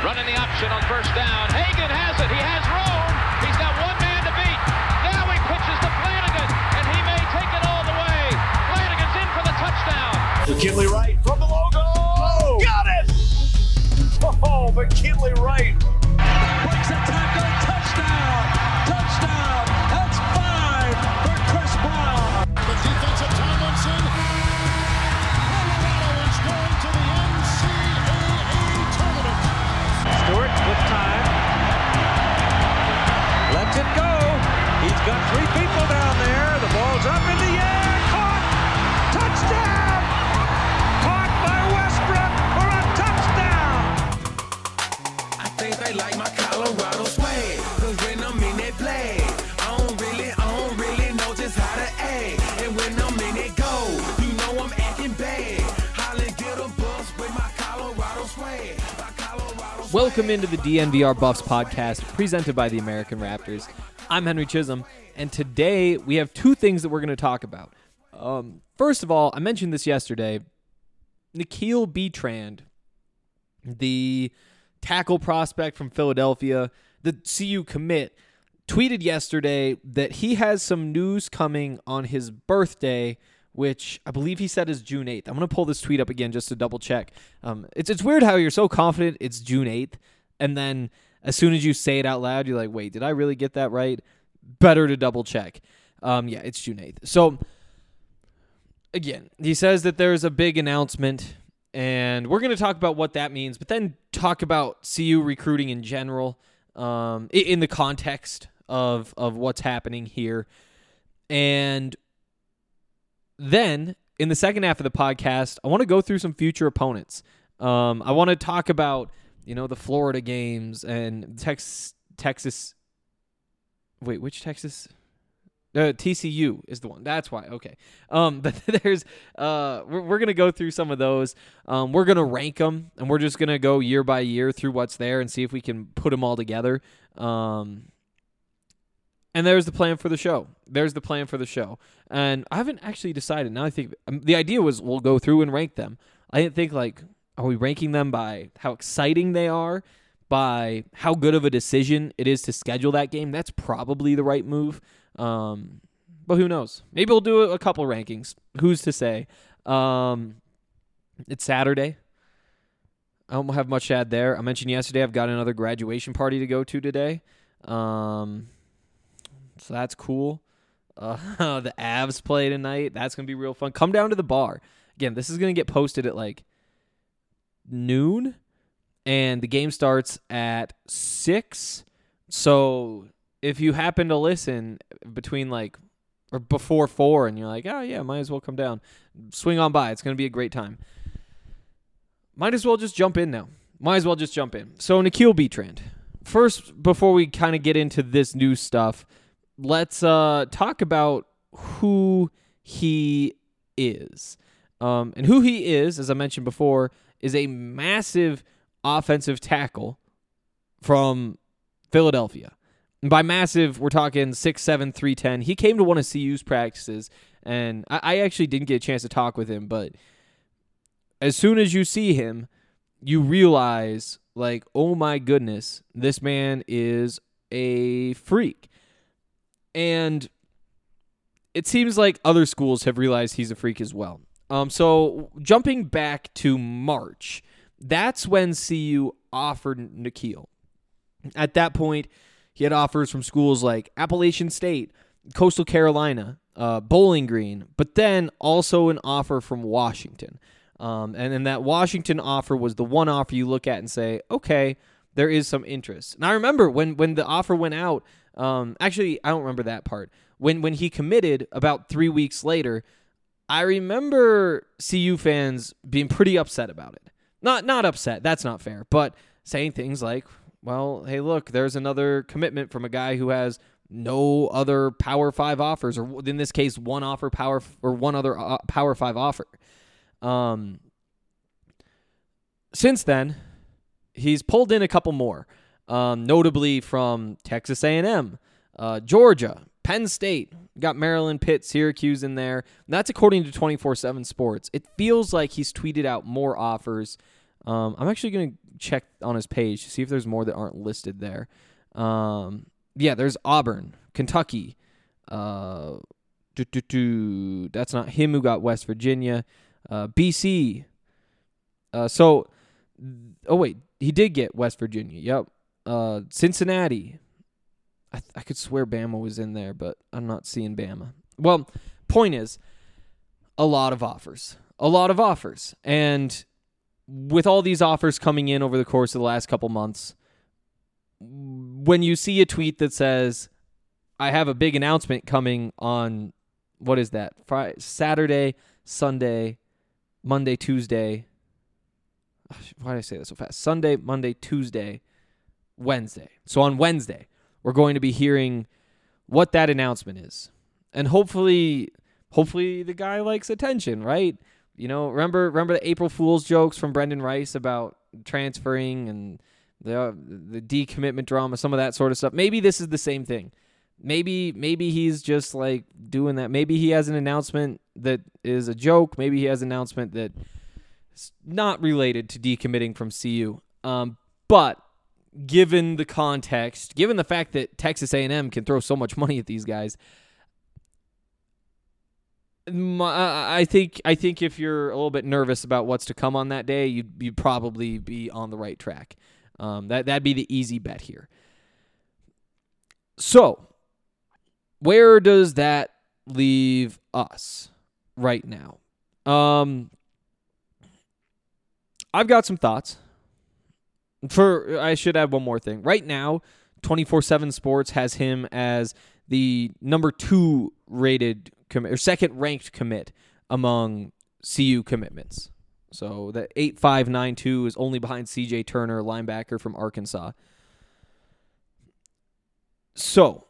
Running the option on first down. Hagan has it. He has room. He's got one man to beat. Now he pitches to Flanagan, and he may take it all the way. Flanagan's in for the touchdown. McKinley Wright from the logo. Oh, got it! Oh, McKinley Wright. Breaks a tackle. Touchdown. Touchdown. That's 5 for Chris Brown. The defensive Tomlinson. Colorado is going to the NCAA tournament. Stewart with time. Lets it go. He's got 3 people down there. The ball's up in the air. Caught. Touchdown. Caught by Westbrook for a touchdown. I think they like my Colorado swag. Cause when I'm in that play, I don't really know just how to act. And when I'm in it go, you know I'm acting bad. Holly get a bus with my Colorado swag. Welcome into the DNVR Buffs podcast, presented by the American Raptors. I'm Henry Chisholm, and today we have 2 things that we're going to talk about. First of all, I mentioned this yesterday. N'Keal Betrand, the tackle prospect from Philadelphia, the CU commit, tweeted yesterday that he has some news coming on his birthday, which I believe he said is June 8th. I'm going to pull this tweet up again just to double check. It's weird how you're so confident it's June 8th, and then as soon as you say it out loud, you're like, wait, did I really get that right? Better to double check. Yeah, it's June 8th. So, again, he says that there's a big announcement, and we're going to talk about what that means, but then talk about CU recruiting in general in the context of what's happening here. And then, in the second half of the podcast, I want to go through some future opponents. I want to talk about, the Florida games and Texas. Wait, which Texas? TCU is the one. That's why. Okay. But there's we're gonna go through some of those. We're gonna rank them, and we're just gonna go year by year through what's there and see if we can put them all together. And there's the plan for the show. And I haven't actually decided. Now I think the idea was we'll go through and rank them. I didn't think, are we ranking them by how exciting they are, by how good of a decision it is to schedule that game? That's probably the right move. But who knows? Maybe we'll do a couple rankings. Who's to say? It's Saturday. I don't have much to add there. I mentioned yesterday I've got another graduation party to go to today. So that's cool. The Avs play tonight. That's going to be real fun. Come down to the bar. Again, this is going to get posted at noon, and the game starts at 6. So if you happen to listen between or before 4 and you're like, oh yeah, might as well come down, swing on by. It's going to be a great time. Might as well just jump in now. So N'Keal Betrand. First, before we kind of get into this new stuff, let's talk about who he is. And who he is, as I mentioned before, is a massive offensive tackle from Philadelphia. And by massive, we're talking 6'7", 310. He came to one of CU's practices, and I actually didn't get a chance to talk with him, but as soon as you see him, you realize, oh my goodness, this man is a freak. And it seems like other schools have realized he's a freak as well. So jumping back to March, that's when CU offered N'Keal. At that point, he had offers from schools like Appalachian State, Coastal Carolina, Bowling Green, but then also an offer from Washington. And then that Washington offer was the one offer you look at and say, okay, there is some interest. And I remember when the offer went out, actually, I don't remember that part. When he committed about 3 weeks later, I remember CU fans being pretty upset about it. Not upset, that's not fair, but saying things like, well, hey, look, there's another commitment from a guy who has no other Power 5 offers, or in this case, one other Power 5 offer. Since then, he's pulled in a couple more, notably from Texas A&M, Georgia, Penn State, got Maryland, Pitt, Syracuse in there. That's according to 24/7 Sports. It feels like he's tweeted out more offers. I'm actually going to check on his page to see if there's more that aren't listed there. Yeah, there's Auburn, Kentucky. That's not him who got West Virginia. BC. Wait, he did get West Virginia. Yep. Cincinnati. I could swear Bama was in there, but I'm not seeing Bama. Well, point is, a lot of offers. And with all these offers coming in over the course of the last couple months, when you see a tweet that says, I have a big announcement coming on, what is that? Saturday, Sunday, Monday, Tuesday. Why did I say that so fast? Sunday, Monday, Tuesday, Wednesday. So on Wednesday, we're going to be hearing what that announcement is. And hopefully the guy likes attention, right? You know, remember the April Fool's jokes from Brendan Rice about transferring and the decommitment drama, some of that sort of stuff. Maybe this is the same thing. Maybe he's just like doing that. Maybe he has an announcement that is a joke. Maybe he has an announcement that is not related to decommitting from CU. But given the context, given the fact that Texas A&M can throw so much money at these guys, I think if you're a little bit nervous about what's to come on that day, you'd probably be on the right track. That'd be the easy bet here. So, where does that leave us right now? I've got some thoughts. I should add one more thing. Right now, 24/7 Sports has him as the number 2 rated commit, or second ranked commit among CU commitments. So the 8592 is only behind CJ Turner, linebacker from Arkansas. So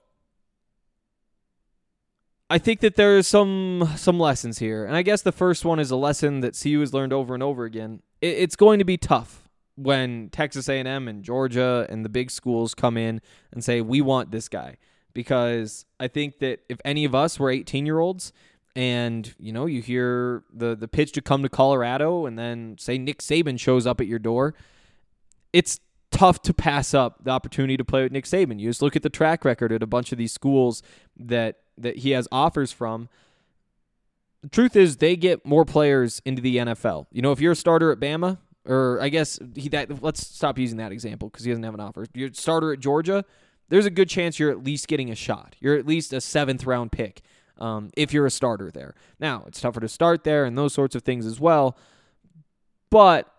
I think that there's some lessons here. And I guess the first one is a lesson that CU has learned over and over again. It's going to be tough when Texas A&M and Georgia and the big schools come in and say, we want this guy. Because I think that if any of us were 18-year-olds and, you know, you hear the pitch to come to Colorado and then say Nick Saban shows up at your door, it's tough to pass up the opportunity to play with Nick Saban. You just look at the track record at a bunch of these schools that he has offers from. The truth is they get more players into the NFL. You know, if you're a starter at Bama, or I guess let's stop using that example because he doesn't have an offer. If you're a starter at Georgia, there's a good chance you're at least getting a shot. You're at least a 7th-round pick if you're a starter there. Now, it's tougher to start there and those sorts of things as well. But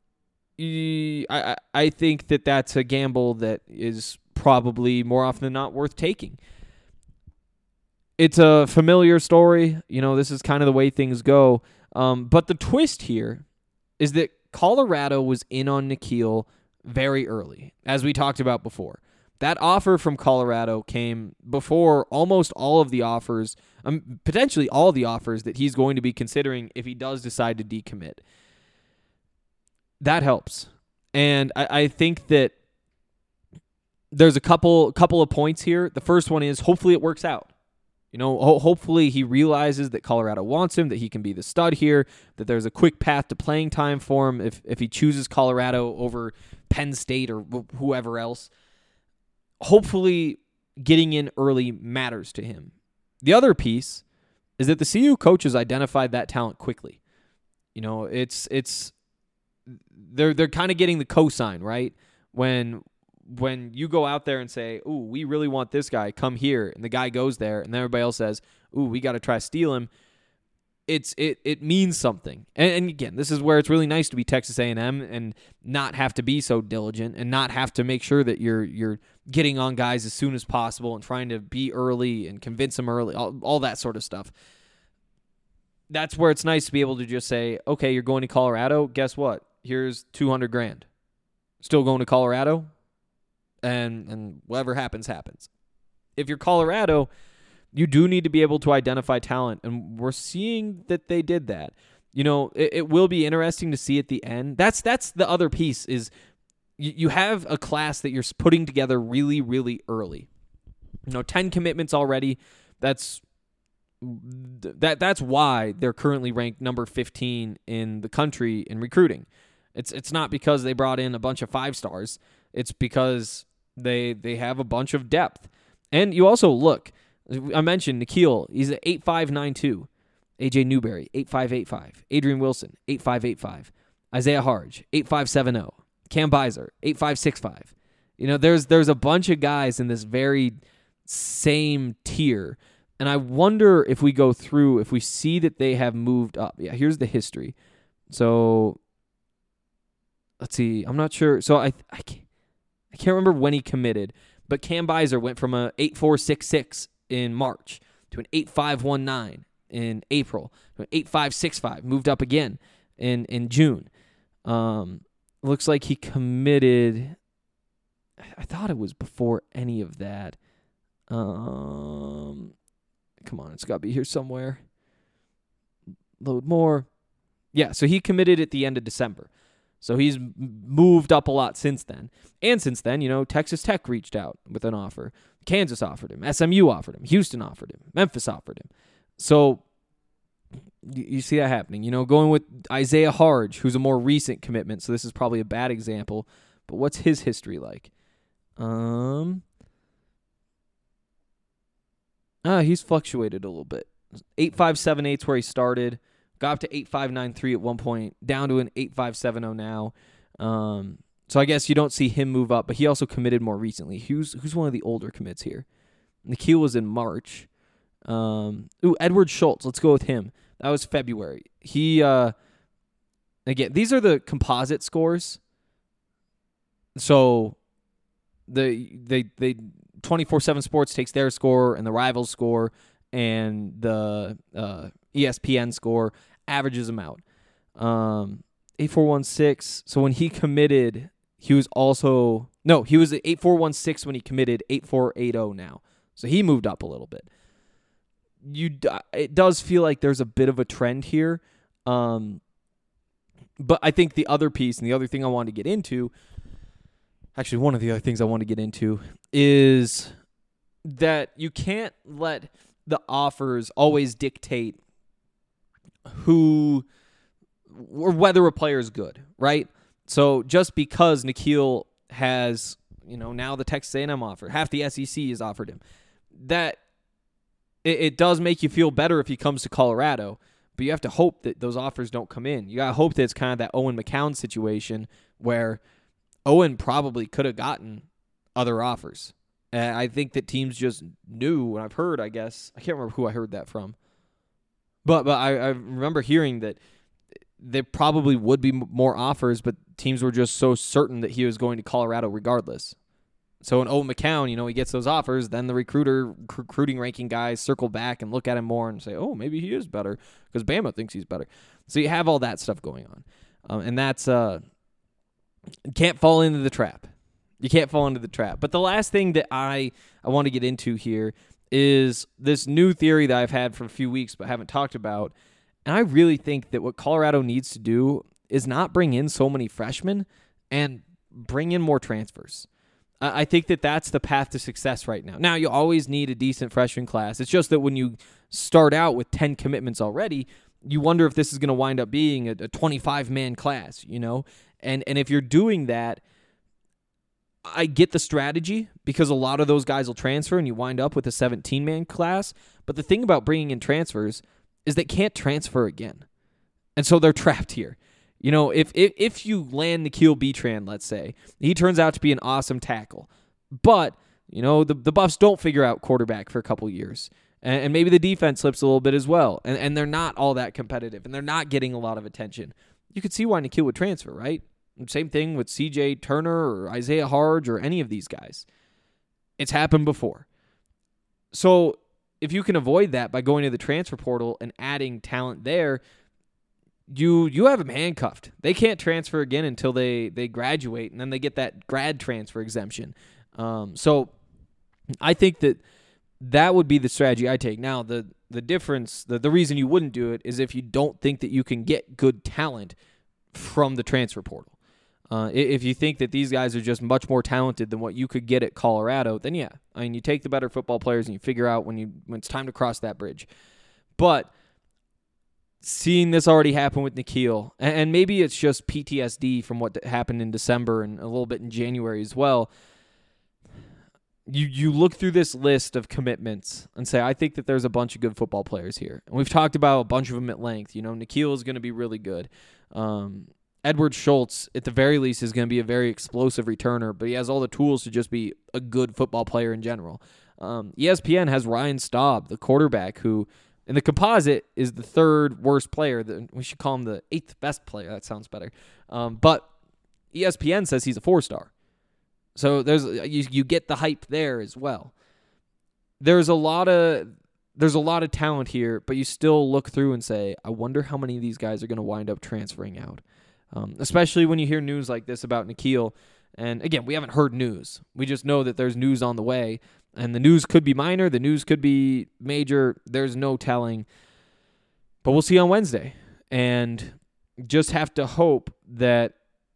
I think that that's a gamble that is probably more often than not worth taking. It's a familiar story. You know, this is kind of the way things go. But the twist here is that Colorado was in on N'Keal very early, as we talked about before. That offer from Colorado came before almost all of the offers, potentially all the offers that he's going to be considering if he does decide to decommit. That helps. And I think that there's a couple of points here. The first one is hopefully it works out. You know, hopefully he realizes that Colorado wants him, that he can be the stud here, that there's a quick path to playing time for him if he chooses Colorado over Penn State or whoever else. Hopefully getting in early matters to him. The other piece is that the CU coaches identified that talent quickly. You know, they're kind of getting the cosign, right? When you go out there and say, "Ooh, we really want this guy, come here," and the guy goes there, and then everybody else says, "Ooh, we got to try to steal him." It means something. And again, this is where it's really nice to be Texas A&M and not have to be so diligent and not have to make sure that you're getting on guys as soon as possible and trying to be early and convince them early, all that sort of stuff. That's where it's nice to be able to just say, okay, you're going to Colorado. Guess what? Here's $200,000. Still going to Colorado, and whatever happens, happens. If you're Colorado, you do need to be able to identify talent, and we're seeing that they did that. You know, it will be interesting to see at the end. That's the other piece is you have a class that you're putting together really, really early. You know, 10 commitments already. That's why they're currently ranked number 15 in the country in recruiting. It's not because they brought in a bunch of 5 stars. It's because they have a bunch of depth. And you also look, I mentioned Nikhil, he's at 8'5", AJ Newberry, 8'5", Adrian Wilson, 8'5", Isaiah Harge, 8'5", Cam Beiser, 8'5", You know, there's a bunch of guys in this very same tier. And I wonder if we go through, if we see that they have moved up. Yeah, here's the history. So let's see. I'm not sure. So I can't remember when he committed, but Cam Beiser went from a 8.466 in March to an 8.519 in April to an 8.565. Moved up again in June. Looks like he committed. I thought it was before any of that. Come on, it's got to be here somewhere. Load more. Yeah, so he committed at the end of December. So he's moved up a lot since then. And since then, you know, Texas Tech reached out with an offer. Kansas offered him. SMU offered him. Houston offered him. Memphis offered him. So you see that happening. You know, going with Isaiah Harge, who's a more recent commitment, so this is probably a bad example. But what's his history like? He's fluctuated a little bit. 8.578 is where he started. Got up to 8.593 at one point, down to an 8.570 now. So I guess you don't see him move up, but he also committed more recently. Who's one of the older commits here? Nikhil was in March. Edward Schultz. Let's go with him. That was February. He again, these are the composite scores. So they 24/7 Sports takes their score and the Rivals score and the ESPN score, averages them out. 8.416. So when he committed, he was also he was at 8.416 when he committed, 8.480 now. So he moved up a little bit. It does feel like there's a bit of a trend here. But I think the other piece and the other thing I wanted to get into, actually one of the other things I want to get into is that you can't let the offers always dictate who or whether a player is good, right? So just because Nikhil has, now the Texas A&M offer, half the SEC has offered him, that it does make you feel better if he comes to Colorado, but you have to hope that those offers don't come in. You got to hope that it's kind of that Owen McCown situation where Owen probably could have gotten other offers. And I think that teams just knew, and I've heard, I guess, I can't remember who I heard that from, but I remember hearing that there probably would be more offers, but teams were just so certain that he was going to Colorado regardless. So when Owen McCown, he gets those offers, then the recruiting ranking guys circle back and look at him more and say, oh, maybe he is better because Bama thinks he's better. So you have all that stuff going on. And that's can't fall into the trap. You can't fall into the trap. But the last thing that I want to get into here is this new theory that I've had for a few weeks but haven't talked about. And I really think that what Colorado needs to do is not bring in so many freshmen and bring in more transfers. I think that that's the path to success right now. Now, you always need a decent freshman class. It's just that when you start out with 10 commitments already, you wonder if this is going to wind up being a 25-man class, And if you're doing that, I get the strategy because a lot of those guys will transfer and you wind up with a 17-man class. But the thing about bringing in transfers is they can't transfer again. And so they're trapped here. If you land Nikhil Betran, let's say, he turns out to be an awesome tackle. But, the Buffs don't figure out quarterback for a couple years. And maybe the defense slips a little bit as well. And they're not all that competitive. And they're not getting a lot of attention. You could see why Nikhil would transfer, right? Same thing with CJ Turner or Isaiah Harge or any of these guys. It's happened before. So if you can avoid that by going to the transfer portal and adding talent there, you have them handcuffed. They can't transfer again until they graduate, and then they get that grad transfer exemption. So I think that would be the strategy I take. Now, the difference, the reason you wouldn't do it is if you don't think that you can get good talent from the transfer portal. If you think that these guys are just much more talented than what you could get at Colorado, then yeah. I mean, you take the better football players and you figure out when it's time to cross that bridge. But seeing this already happen with Nikhil, and maybe it's just PTSD from what happened in December and a little bit in January as well. You look through this list of commitments and say, I think that there's a bunch of good football players here. And we've talked about a bunch of them at length. Nikhil is going to be really good. Edward Schultz, at the very least, is going to be a very explosive returner, but he has all the tools to just be a good football player in general. ESPN has Ryan Staub, the quarterback, who in the composite is the third worst player. We should call him the 8th best player. That sounds better. But ESPN says he's a 4-star. So you get the hype there as well. There's a lot of talent here, but you still look through and say, I wonder how many of these guys are going to wind up transferring out. Especially when you hear news like this about Nikhil. And again, we haven't heard news. We just know that there's news on the way. And the news could be minor. The news could be major. There's no telling. But we'll see on Wednesday. And just have to hope that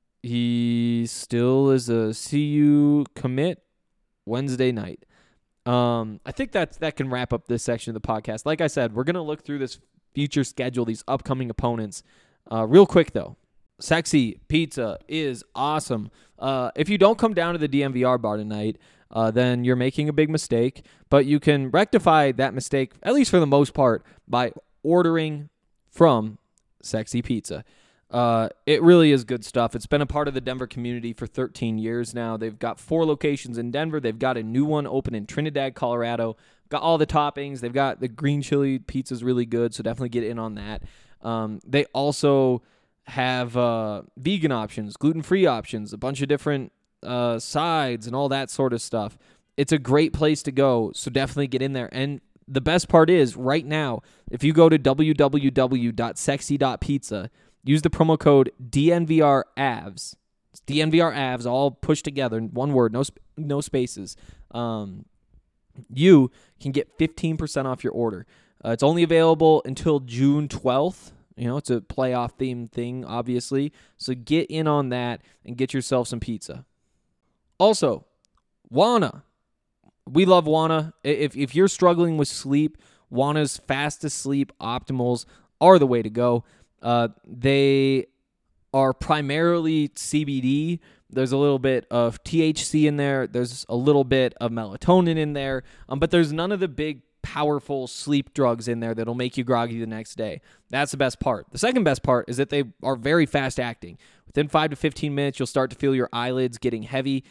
he still is a CU commit Wednesday night. I think that can wrap up this section of the podcast. Like I said, we're going to look through this future schedule, these upcoming opponents. Real quick, though. Sexy Pizza is awesome. If you don't come down to the DNVR bar tonight, then you're making a big mistake. But you can rectify that mistake, at least for the most part, by ordering from Sexy Pizza. It really is good stuff. It's been a part of the Denver community for 13 years now. They've got 4 locations in Denver. They've got a new one open in Trinidad, Colorado. Got all the toppings. They've got the green chili pizza's really good, so definitely get in on that. They also have vegan options, gluten-free options, a bunch of different sides and all that sort of stuff. It's a great place to go, so definitely get in there. And the best part is, right now, if you go to www.sexy.pizza, use the promo code DNVRAVS. It's DNVRAVS, all pushed together in one word, no spaces. You can get 15% off your order. It's only available until June 12th. It's a playoff themed thing, obviously. So get in on that and get yourself some pizza. Also, Wana. We love Wana. If you're struggling with sleep, Wana's Fast Asleep Optimals are the way to go. They are primarily CBD. There's a little bit of THC in there. There's a little bit of melatonin in there. But there's none of the big, powerful sleep drugs in there that'll make you groggy the next day. That's the best part. The second best part is that they are very fast acting. Within 5 to 15 minutes, you'll start to feel your eyelids getting heavy.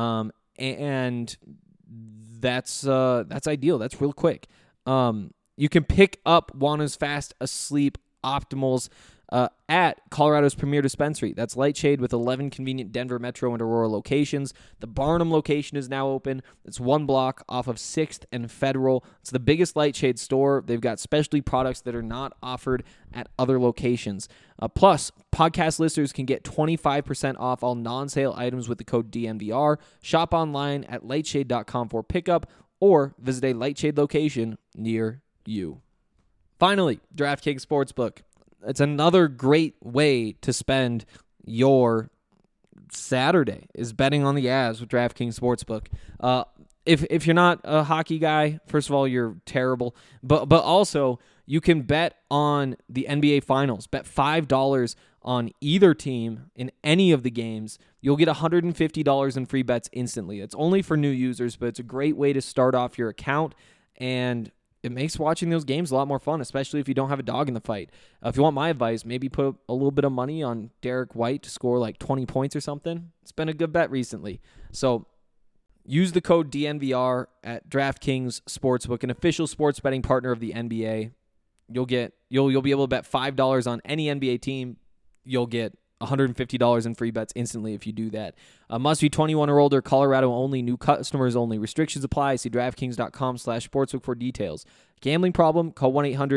And that's ideal. That's real quick. You can pick up Wana's Fast Asleep Optimals at Colorado's premier dispensary. That's Lightshade with 11 convenient Denver Metro and Aurora locations. The Barnum location is now open. It's 1 block off of 6th and Federal. It's the biggest Lightshade store. They've got specialty products that are not offered at other locations. Plus, podcast listeners can get 25% off all non-sale items with the code DNVR. Shop online at lightshade.com for pickup or visit a Lightshade location near you. Finally, DraftKings Sportsbook. It's another great way to spend your Saturday, is betting on the Avs with DraftKings Sportsbook. If you're not a hockey guy, first of all, you're terrible. But also, you can bet on the NBA Finals. Bet $5 on either team in any of the games. You'll get $150 in free bets instantly. It's only for new users, but it's a great way to start off your account, and it makes watching those games a lot more fun, especially if you don't have a dog in the fight. If you want my advice, maybe put a little bit of money on Derek White to score like 20 points or something. It's been a good bet recently. So use the code DNVR at DraftKings Sportsbook, an official sports betting partner of the NBA. You'll be able to bet $5 on any NBA team. You'll get $150 in free bets instantly if you do that. Must be 21 or older, Colorado only, new customers only. Restrictions apply. See DraftKings.com/sportsbook for details. Gambling problem? Call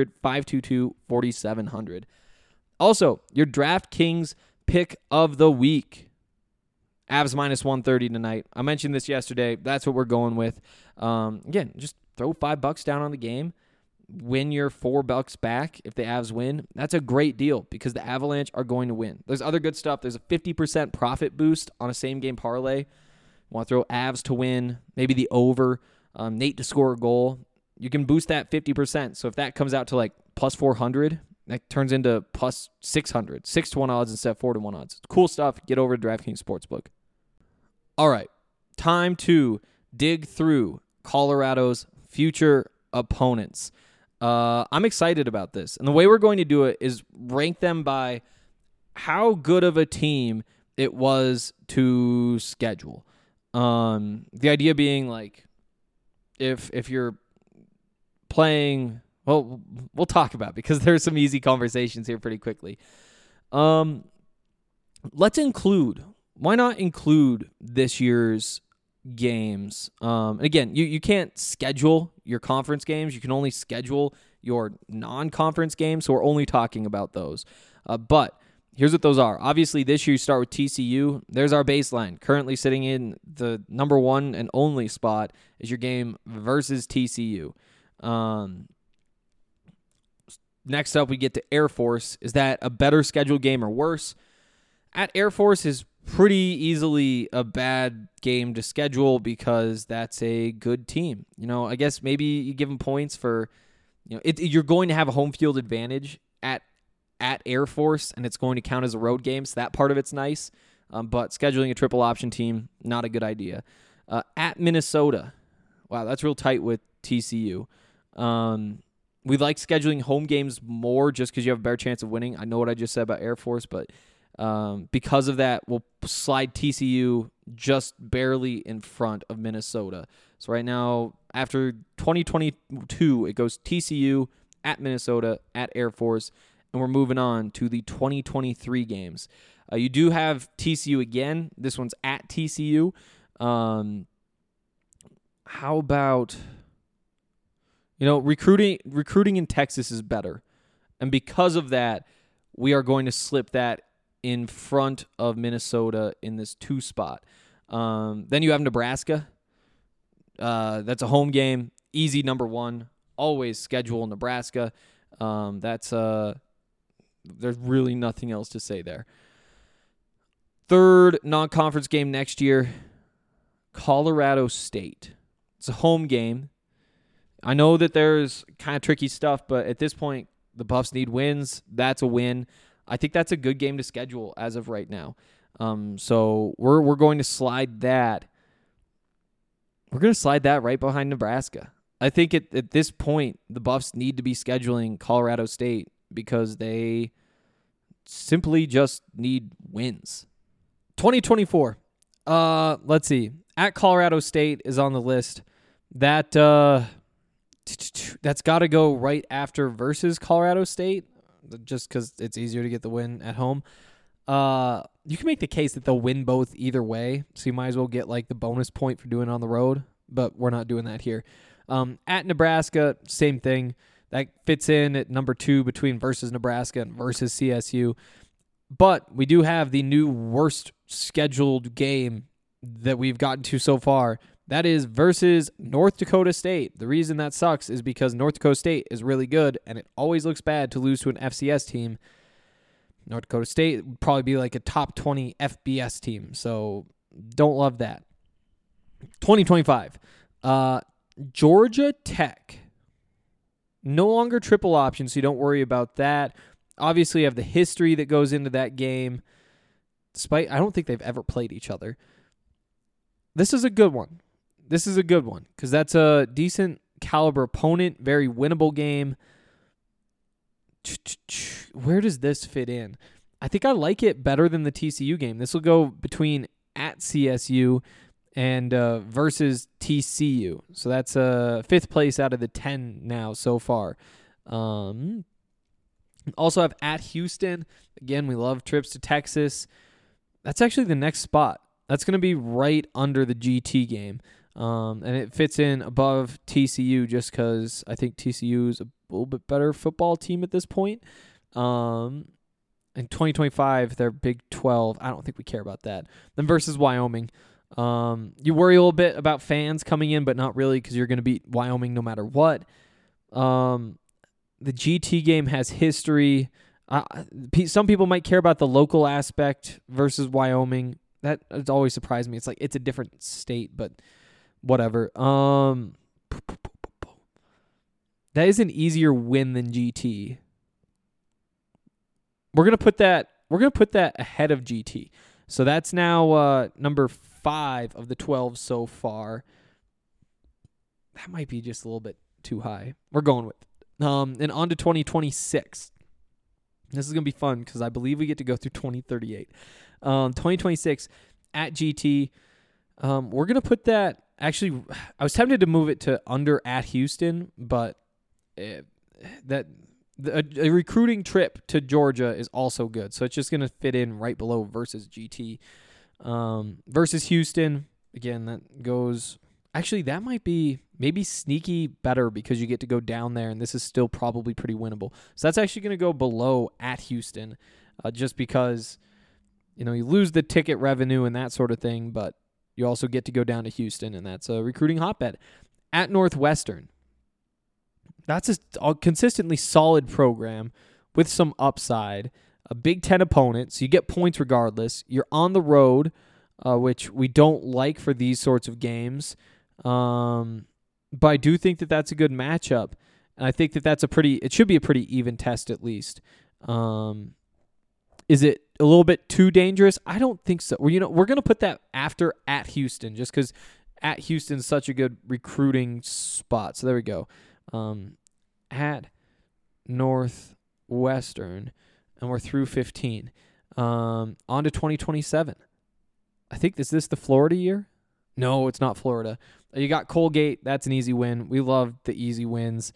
1-800-522-4700. Also, your DraftKings pick of the week. Avs minus 130 tonight. I mentioned this yesterday. That's what we're going with. Again, just throw $5 down on the game. Win your $4 back if the Avs win. That's a great deal because the Avalanche are going to win. There's other good stuff. There's a 50% profit boost on a same-game parlay. Want to throw Avs to win, maybe the over, Nate to score a goal. You can boost that 50%. So if that comes out to like plus 400, That turns into plus 600, 6-1 odds instead of 4-1 odds. Cool stuff. Get over to DraftKings Sportsbook. All right, time to dig through Colorado's future opponents. I'm excited about this. And the way we're going to do it is rank them by how good of a team it was to schedule. The idea being like if you're playing, well, we'll talk about it because there's some easy conversations here pretty quickly. Let's include, why not include this year's games? And again, you can't schedule your conference games. You can only schedule your non-conference games. So we're only talking about those. But here's what those are. Obviously, this year you start with TCU. There's our baseline. Currently sitting in the number one and only spot is your game versus TCU. Next up, we get to Air Force. Is that a better scheduled game or worse? At Air Force is pretty easily a bad game to schedule because that's a good team. I guess maybe you give them points for, you're going to have a home field advantage at Air Force, and it's going to count as a road game, so that part of it's nice. But scheduling a triple option team, not a good idea. At Minnesota, wow, that's real tight with TCU. We like scheduling home games more just because you have a better chance of winning. I know what I just said about Air Force, but because of that, we'll slide TCU just barely in front of Minnesota. So right now, after 2022, it goes TCU, at Minnesota, at Air Force, and we're moving on to the 2023 games. You do have TCU again. This one's at TCU. How about, recruiting in Texas is better. And because of that, we are going to slip that in front of Minnesota in this 2 spot. Then you have Nebraska. That's a home game. Easy number 1. Always schedule Nebraska. There's really nothing else to say there. Third non-conference game next year, Colorado State. It's a home game. I know that there's kind of tricky stuff, but at this point, the Buffs need wins. That's a win. I think that's a good game to schedule as of right now. So we're going to slide that. We're going to slide that right behind Nebraska. I think at this point, the Buffs need to be scheduling Colorado State because they simply just need wins. 2024. Let's see. At Colorado State is on the list. That's got to go right after versus Colorado State, just because it's easier to get the win at home. You can make the case that they'll win both either way, so you might as well get like the bonus point for doing it on the road, but we're not doing that here. At Nebraska, same thing. That fits in at number 2 between versus Nebraska and versus CSU. But we do have the new worst scheduled game that we've gotten to so far. That is versus North Dakota State. The reason that sucks is because North Dakota State is really good, and it always looks bad to lose to an FCS team. North Dakota State would probably be like a top 20 FBS team, so don't love that. 2025. Georgia Tech. No longer triple option, so you don't worry about that. Obviously, you have the history that goes into that game. Despite, I don't think they've ever played each other. This is a good one. Because that's a decent caliber opponent, very winnable game. Where does this fit in? I think I like it better than the TCU game. This will go between at CSU and versus TCU. So that's 5th place out of the 10 now so far. Also have at Houston. Again, we love trips to Texas. That's actually the next spot. That's going to be right under the GT game. And it fits in above TCU just because I think TCU is a little bit better football team at this point. In 2025, they're Big 12. I don't think we care about that. Then versus Wyoming. You worry a little bit about fans coming in, but not really because you're going to beat Wyoming no matter what. The GT game has history. Some people might care about the local aspect versus Wyoming. That has always surprised me. It's like it's a different state, but whatever. That is an easier win than GT. we're gonna put that ahead of GT. So that's now number 5 of the 12 so far. That might be just a little bit too high. We're going with it. And on to 2026. This is gonna be fun because I believe we get to go through 2038. 2026 at GT. We're gonna put that. Actually, I was tempted to move it to under at Houston, but a recruiting trip to Georgia is also good. So it's just going to fit in right below versus GT. Versus Houston, again, that goes... Actually, that might be maybe sneaky better because you get to go down there, and this is still probably pretty winnable. So that's actually going to go below at Houston just because, you lose the ticket revenue and that sort of thing, but you also get to go down to Houston, and that's a recruiting hotbed. At Northwestern, that's a consistently solid program with some upside. A Big Ten opponent, so you get points regardless. You're on the road, which we don't like for these sorts of games. But I do think that that's a good matchup, and I think that it should be a pretty even test at least. Is it a little bit too dangerous? I don't think so. We're going to put that after at Houston just because at Houston's such a good recruiting spot. So there we go. At Northwestern, and we're through 15. On to 2027. I think, is this the Florida year? No, it's not Florida. You got Colgate. That's an easy win. We love the easy wins.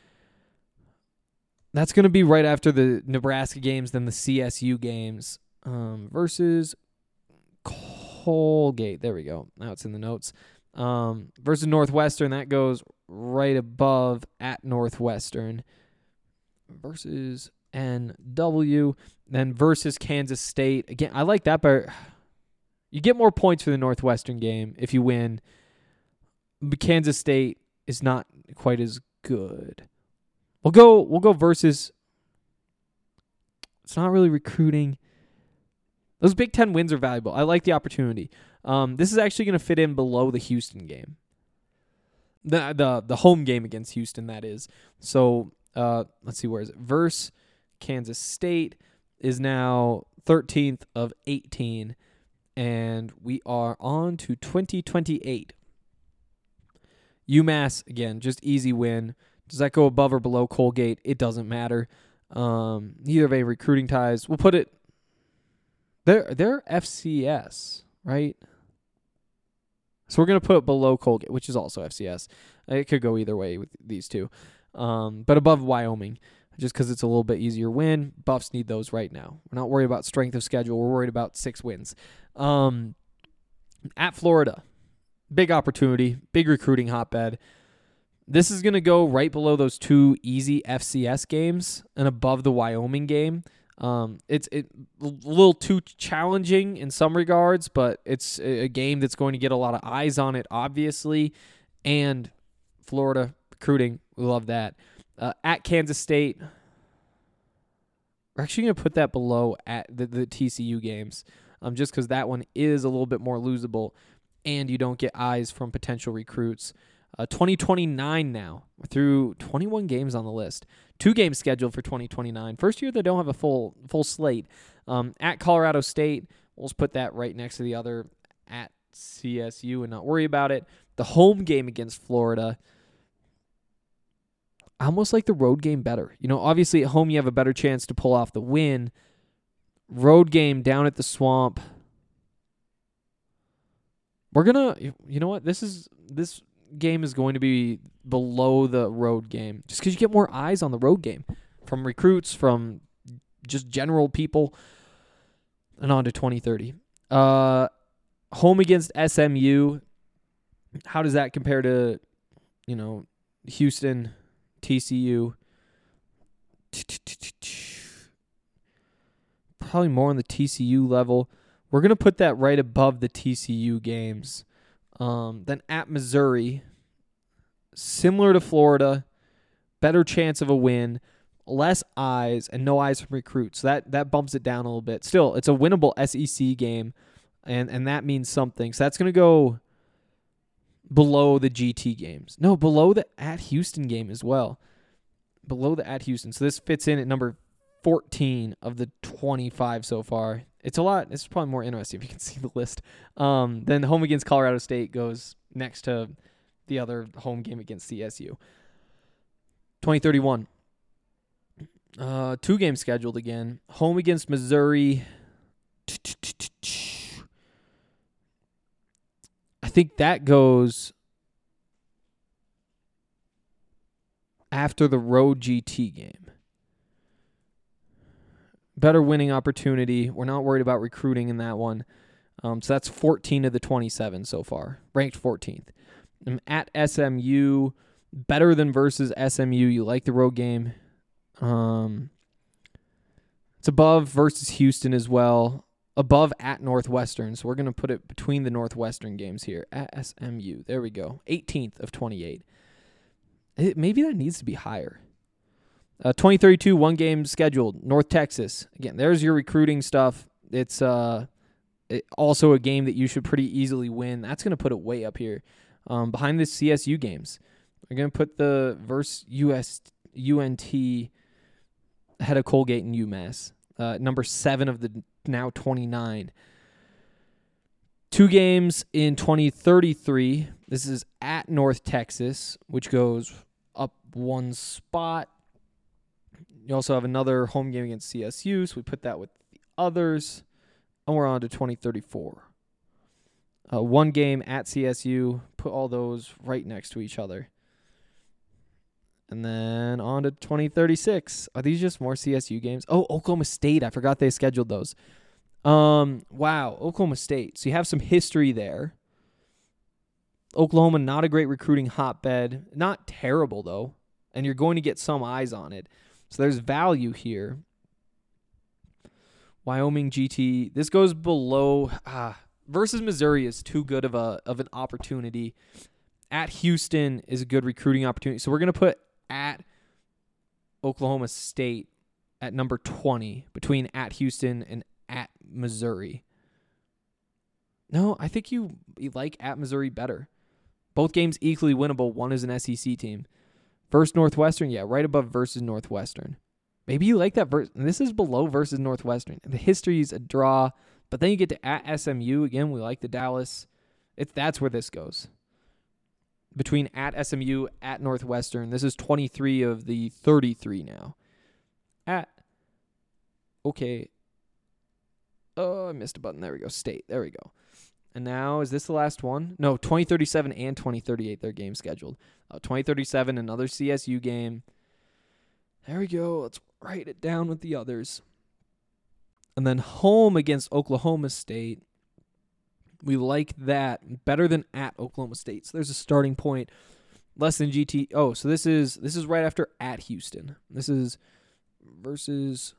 That's going to be right after the Nebraska games, then the CSU games versus Colgate. There we go. Now it's in the notes. Versus Northwestern, that goes right above at Northwestern. Versus NW. Then versus Kansas State. Again, I like that, but you get more points for the Northwestern game if you win. But Kansas State is not quite as good. We'll go versus. It's not really recruiting. Those Big Ten wins are valuable. I like the opportunity. This is actually going to fit in below the Houston game. The home game against Houston, that is. So let's see, where is it? Versus Kansas State is now 13th of 18, and we are on to 2028. UMass, again, just easy win. Does that go above or below Colgate? It doesn't matter. Neither have any recruiting ties. We'll put it... They're FCS, right? So we're going to put it below Colgate, which is also FCS. It could go either way with these two. But above Wyoming, just because it's a little bit easier win. Buffs need those right now. We're not worried about strength of schedule. We're worried about 6 wins. At Florida, big opportunity, big recruiting hotbed. This is going to go right below those 2 easy FCS games and above the Wyoming game. It's a little too challenging in some regards, but it's a game that's going to get a lot of eyes on it, obviously. And Florida recruiting, we love that. At Kansas State, we're actually going to put that below at the TCU games, just because that one is a little bit more losable, and you don't get eyes from potential recruits. 2029 now. We're through 21 games on the list. 2 games scheduled for 2029. First year they don't have a full slate. At Colorado State, we'll just put that right next to the other at CSU and not worry about it. The home game against Florida, I almost like the road game better. Obviously at home you have a better chance to pull off the win. Road game down at the Swamp. We're going to, you know what? This game is going to be below the road game just because you get more eyes on the road game from recruits, from just general people. And on to 2030. Home against SMU. How does that compare to, Houston, TCU? Probably more on the TCU level. We're going to put that right above the TCU games. Then at Missouri, similar to Florida, better chance of a win, less eyes, and no eyes from recruits. So that bumps it down a little bit. Still, it's a winnable SEC game, and that means something. So that's going to go below the GT games. No, below the at Houston game as well. Below the at Houston. So this fits in at number 14 of the 25 so far. It's a lot. It's probably more interesting if you can see the list. Then home against Colorado State goes next to the other home game against CSU. 2031. 2 games scheduled again. Home against Missouri. I think that goes after the road GT game. Better winning opportunity. We're not worried about recruiting in that one. So that's 14 of the 27 so far. Ranked 14th. At SMU. Better than versus SMU. You like the road game. It's above versus Houston as well. Above at Northwestern. So we're going to put it between the Northwestern games here. At SMU. There we go. 18th of 28. Maybe that needs to be higher. 2032, 1 game scheduled. North Texas. Again, there's your recruiting stuff. It's also a game that you should pretty easily win. That's going to put it way up here. Behind the CSU games. We're going to put the versus UNT ahead of Colgate and UMass. Number 7 of the now 29. 2 games in 2033. This is at North Texas, which goes up 1 spot. You also have another home game against CSU, so we put that with the others. And we're on to 2034. 1 game at CSU. Put all those right next to each other. And then on to 2036. Are these just more CSU games? Oh, Oklahoma State. I forgot they scheduled those. Wow, Oklahoma State. So you have some history there. Oklahoma, not a great recruiting hotbed. Not terrible, though. And you're going to get some eyes on it. So there's value here. Wyoming GT. This goes below. Versus Missouri is too good of an opportunity. At Houston is a good recruiting opportunity. So we're going to put at Oklahoma State at number 20 between at Houston and at Missouri. No, I think you like at Missouri better. Both games equally winnable. One is an SEC team. Versus Northwestern, yeah, right above versus Northwestern. Maybe you like that. This is below versus Northwestern. The history is a draw, but then you get to at SMU. Again, we like the Dallas. That's where this goes. Between at SMU, at Northwestern. This is 23 of the 33 now. Oh, I missed a button. There we go. State. There we go. And now, is this the last one? No, 2037 and 2038, their game scheduled. 2037, another CSU game. There we go. Let's write it down with the others. And then home against Oklahoma State. We like that better than at Oklahoma State. So there's a starting point. Less than GT. Oh, so this is right after at Houston. This is versus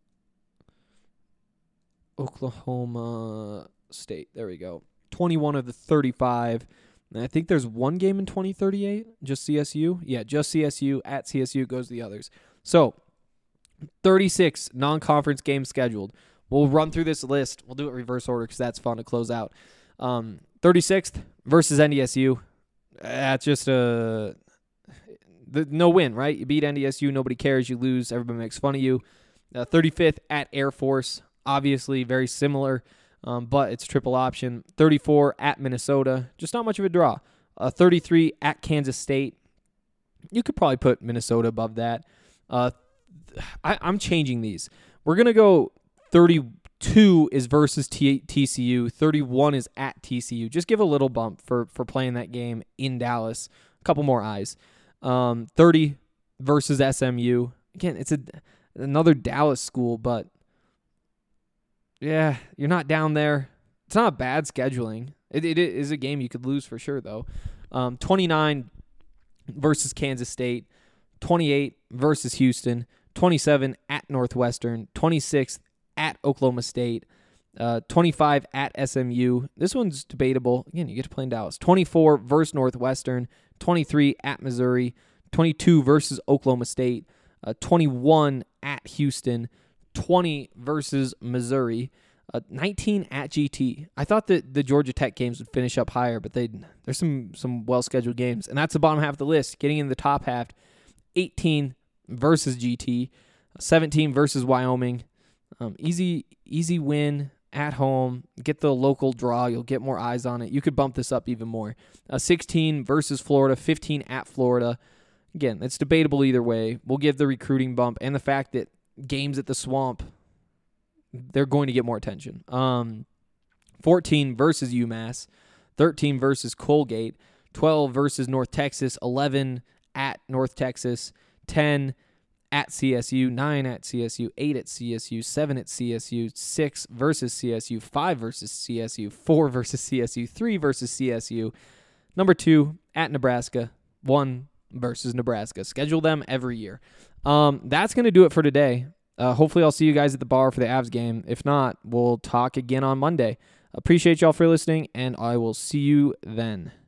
Oklahoma State. There we go. 21 of the 35. And I think there's 1 game in 2038. Just CSU. Yeah, just CSU. At CSU goes the others. So 36 non-conference games scheduled. We'll run through this list. We'll do it reverse order because that's fun to close out. 36th versus NDSU. That's just no win, right? You beat NDSU, nobody cares. You lose, everybody makes fun of you. 35th at Air Force, obviously very similar, but it's triple option. 34 at Minnesota, just not much of a draw. 33 at Kansas State. You could probably put Minnesota above that. I'm changing these. We're going to go 32 is versus TCU. 31 is at TCU. Just give a little bump for playing that game in Dallas. A couple more eyes. 30 versus SMU. Again, it's another Dallas school, but yeah, you're not down there. It's not bad scheduling. It is a game you could lose for sure, though. 29 versus Kansas State. 28 versus Houston. 27 at Northwestern. 26 at Oklahoma State. 25 at SMU. This one's debatable. Again, you get to play in Dallas. 24 versus Northwestern. 23 at Missouri. 22 versus Oklahoma State. 21 at Houston. 20 versus Missouri. 19 at GT. I thought that the Georgia Tech games would finish up higher, but there's some well-scheduled games. And that's the bottom half of the list. Getting in the top half, 18 versus GT. 17 versus Wyoming. Easy win at home. Get the local draw. You'll get more eyes on it. You could bump this up even more. 16 versus Florida. 15 at Florida. Again, it's debatable either way. We'll give the recruiting bump and the fact that games at the Swamp, they're going to get more attention. 14 versus UMass. 13 versus Colgate. 12 versus North Texas. 11 at North Texas. 10 at CSU, 9 at CSU, 8 at CSU, 7 at CSU, 6 versus CSU, 5 versus CSU, 4 versus CSU, 3 versus CSU, number 2 at Nebraska, 1 versus Nebraska. Schedule them every year. That's going to do it for today. Hopefully I'll see you guys at the bar for the Avs game. If not, we'll talk again on Monday. Appreciate y'all for listening, and I will see you then.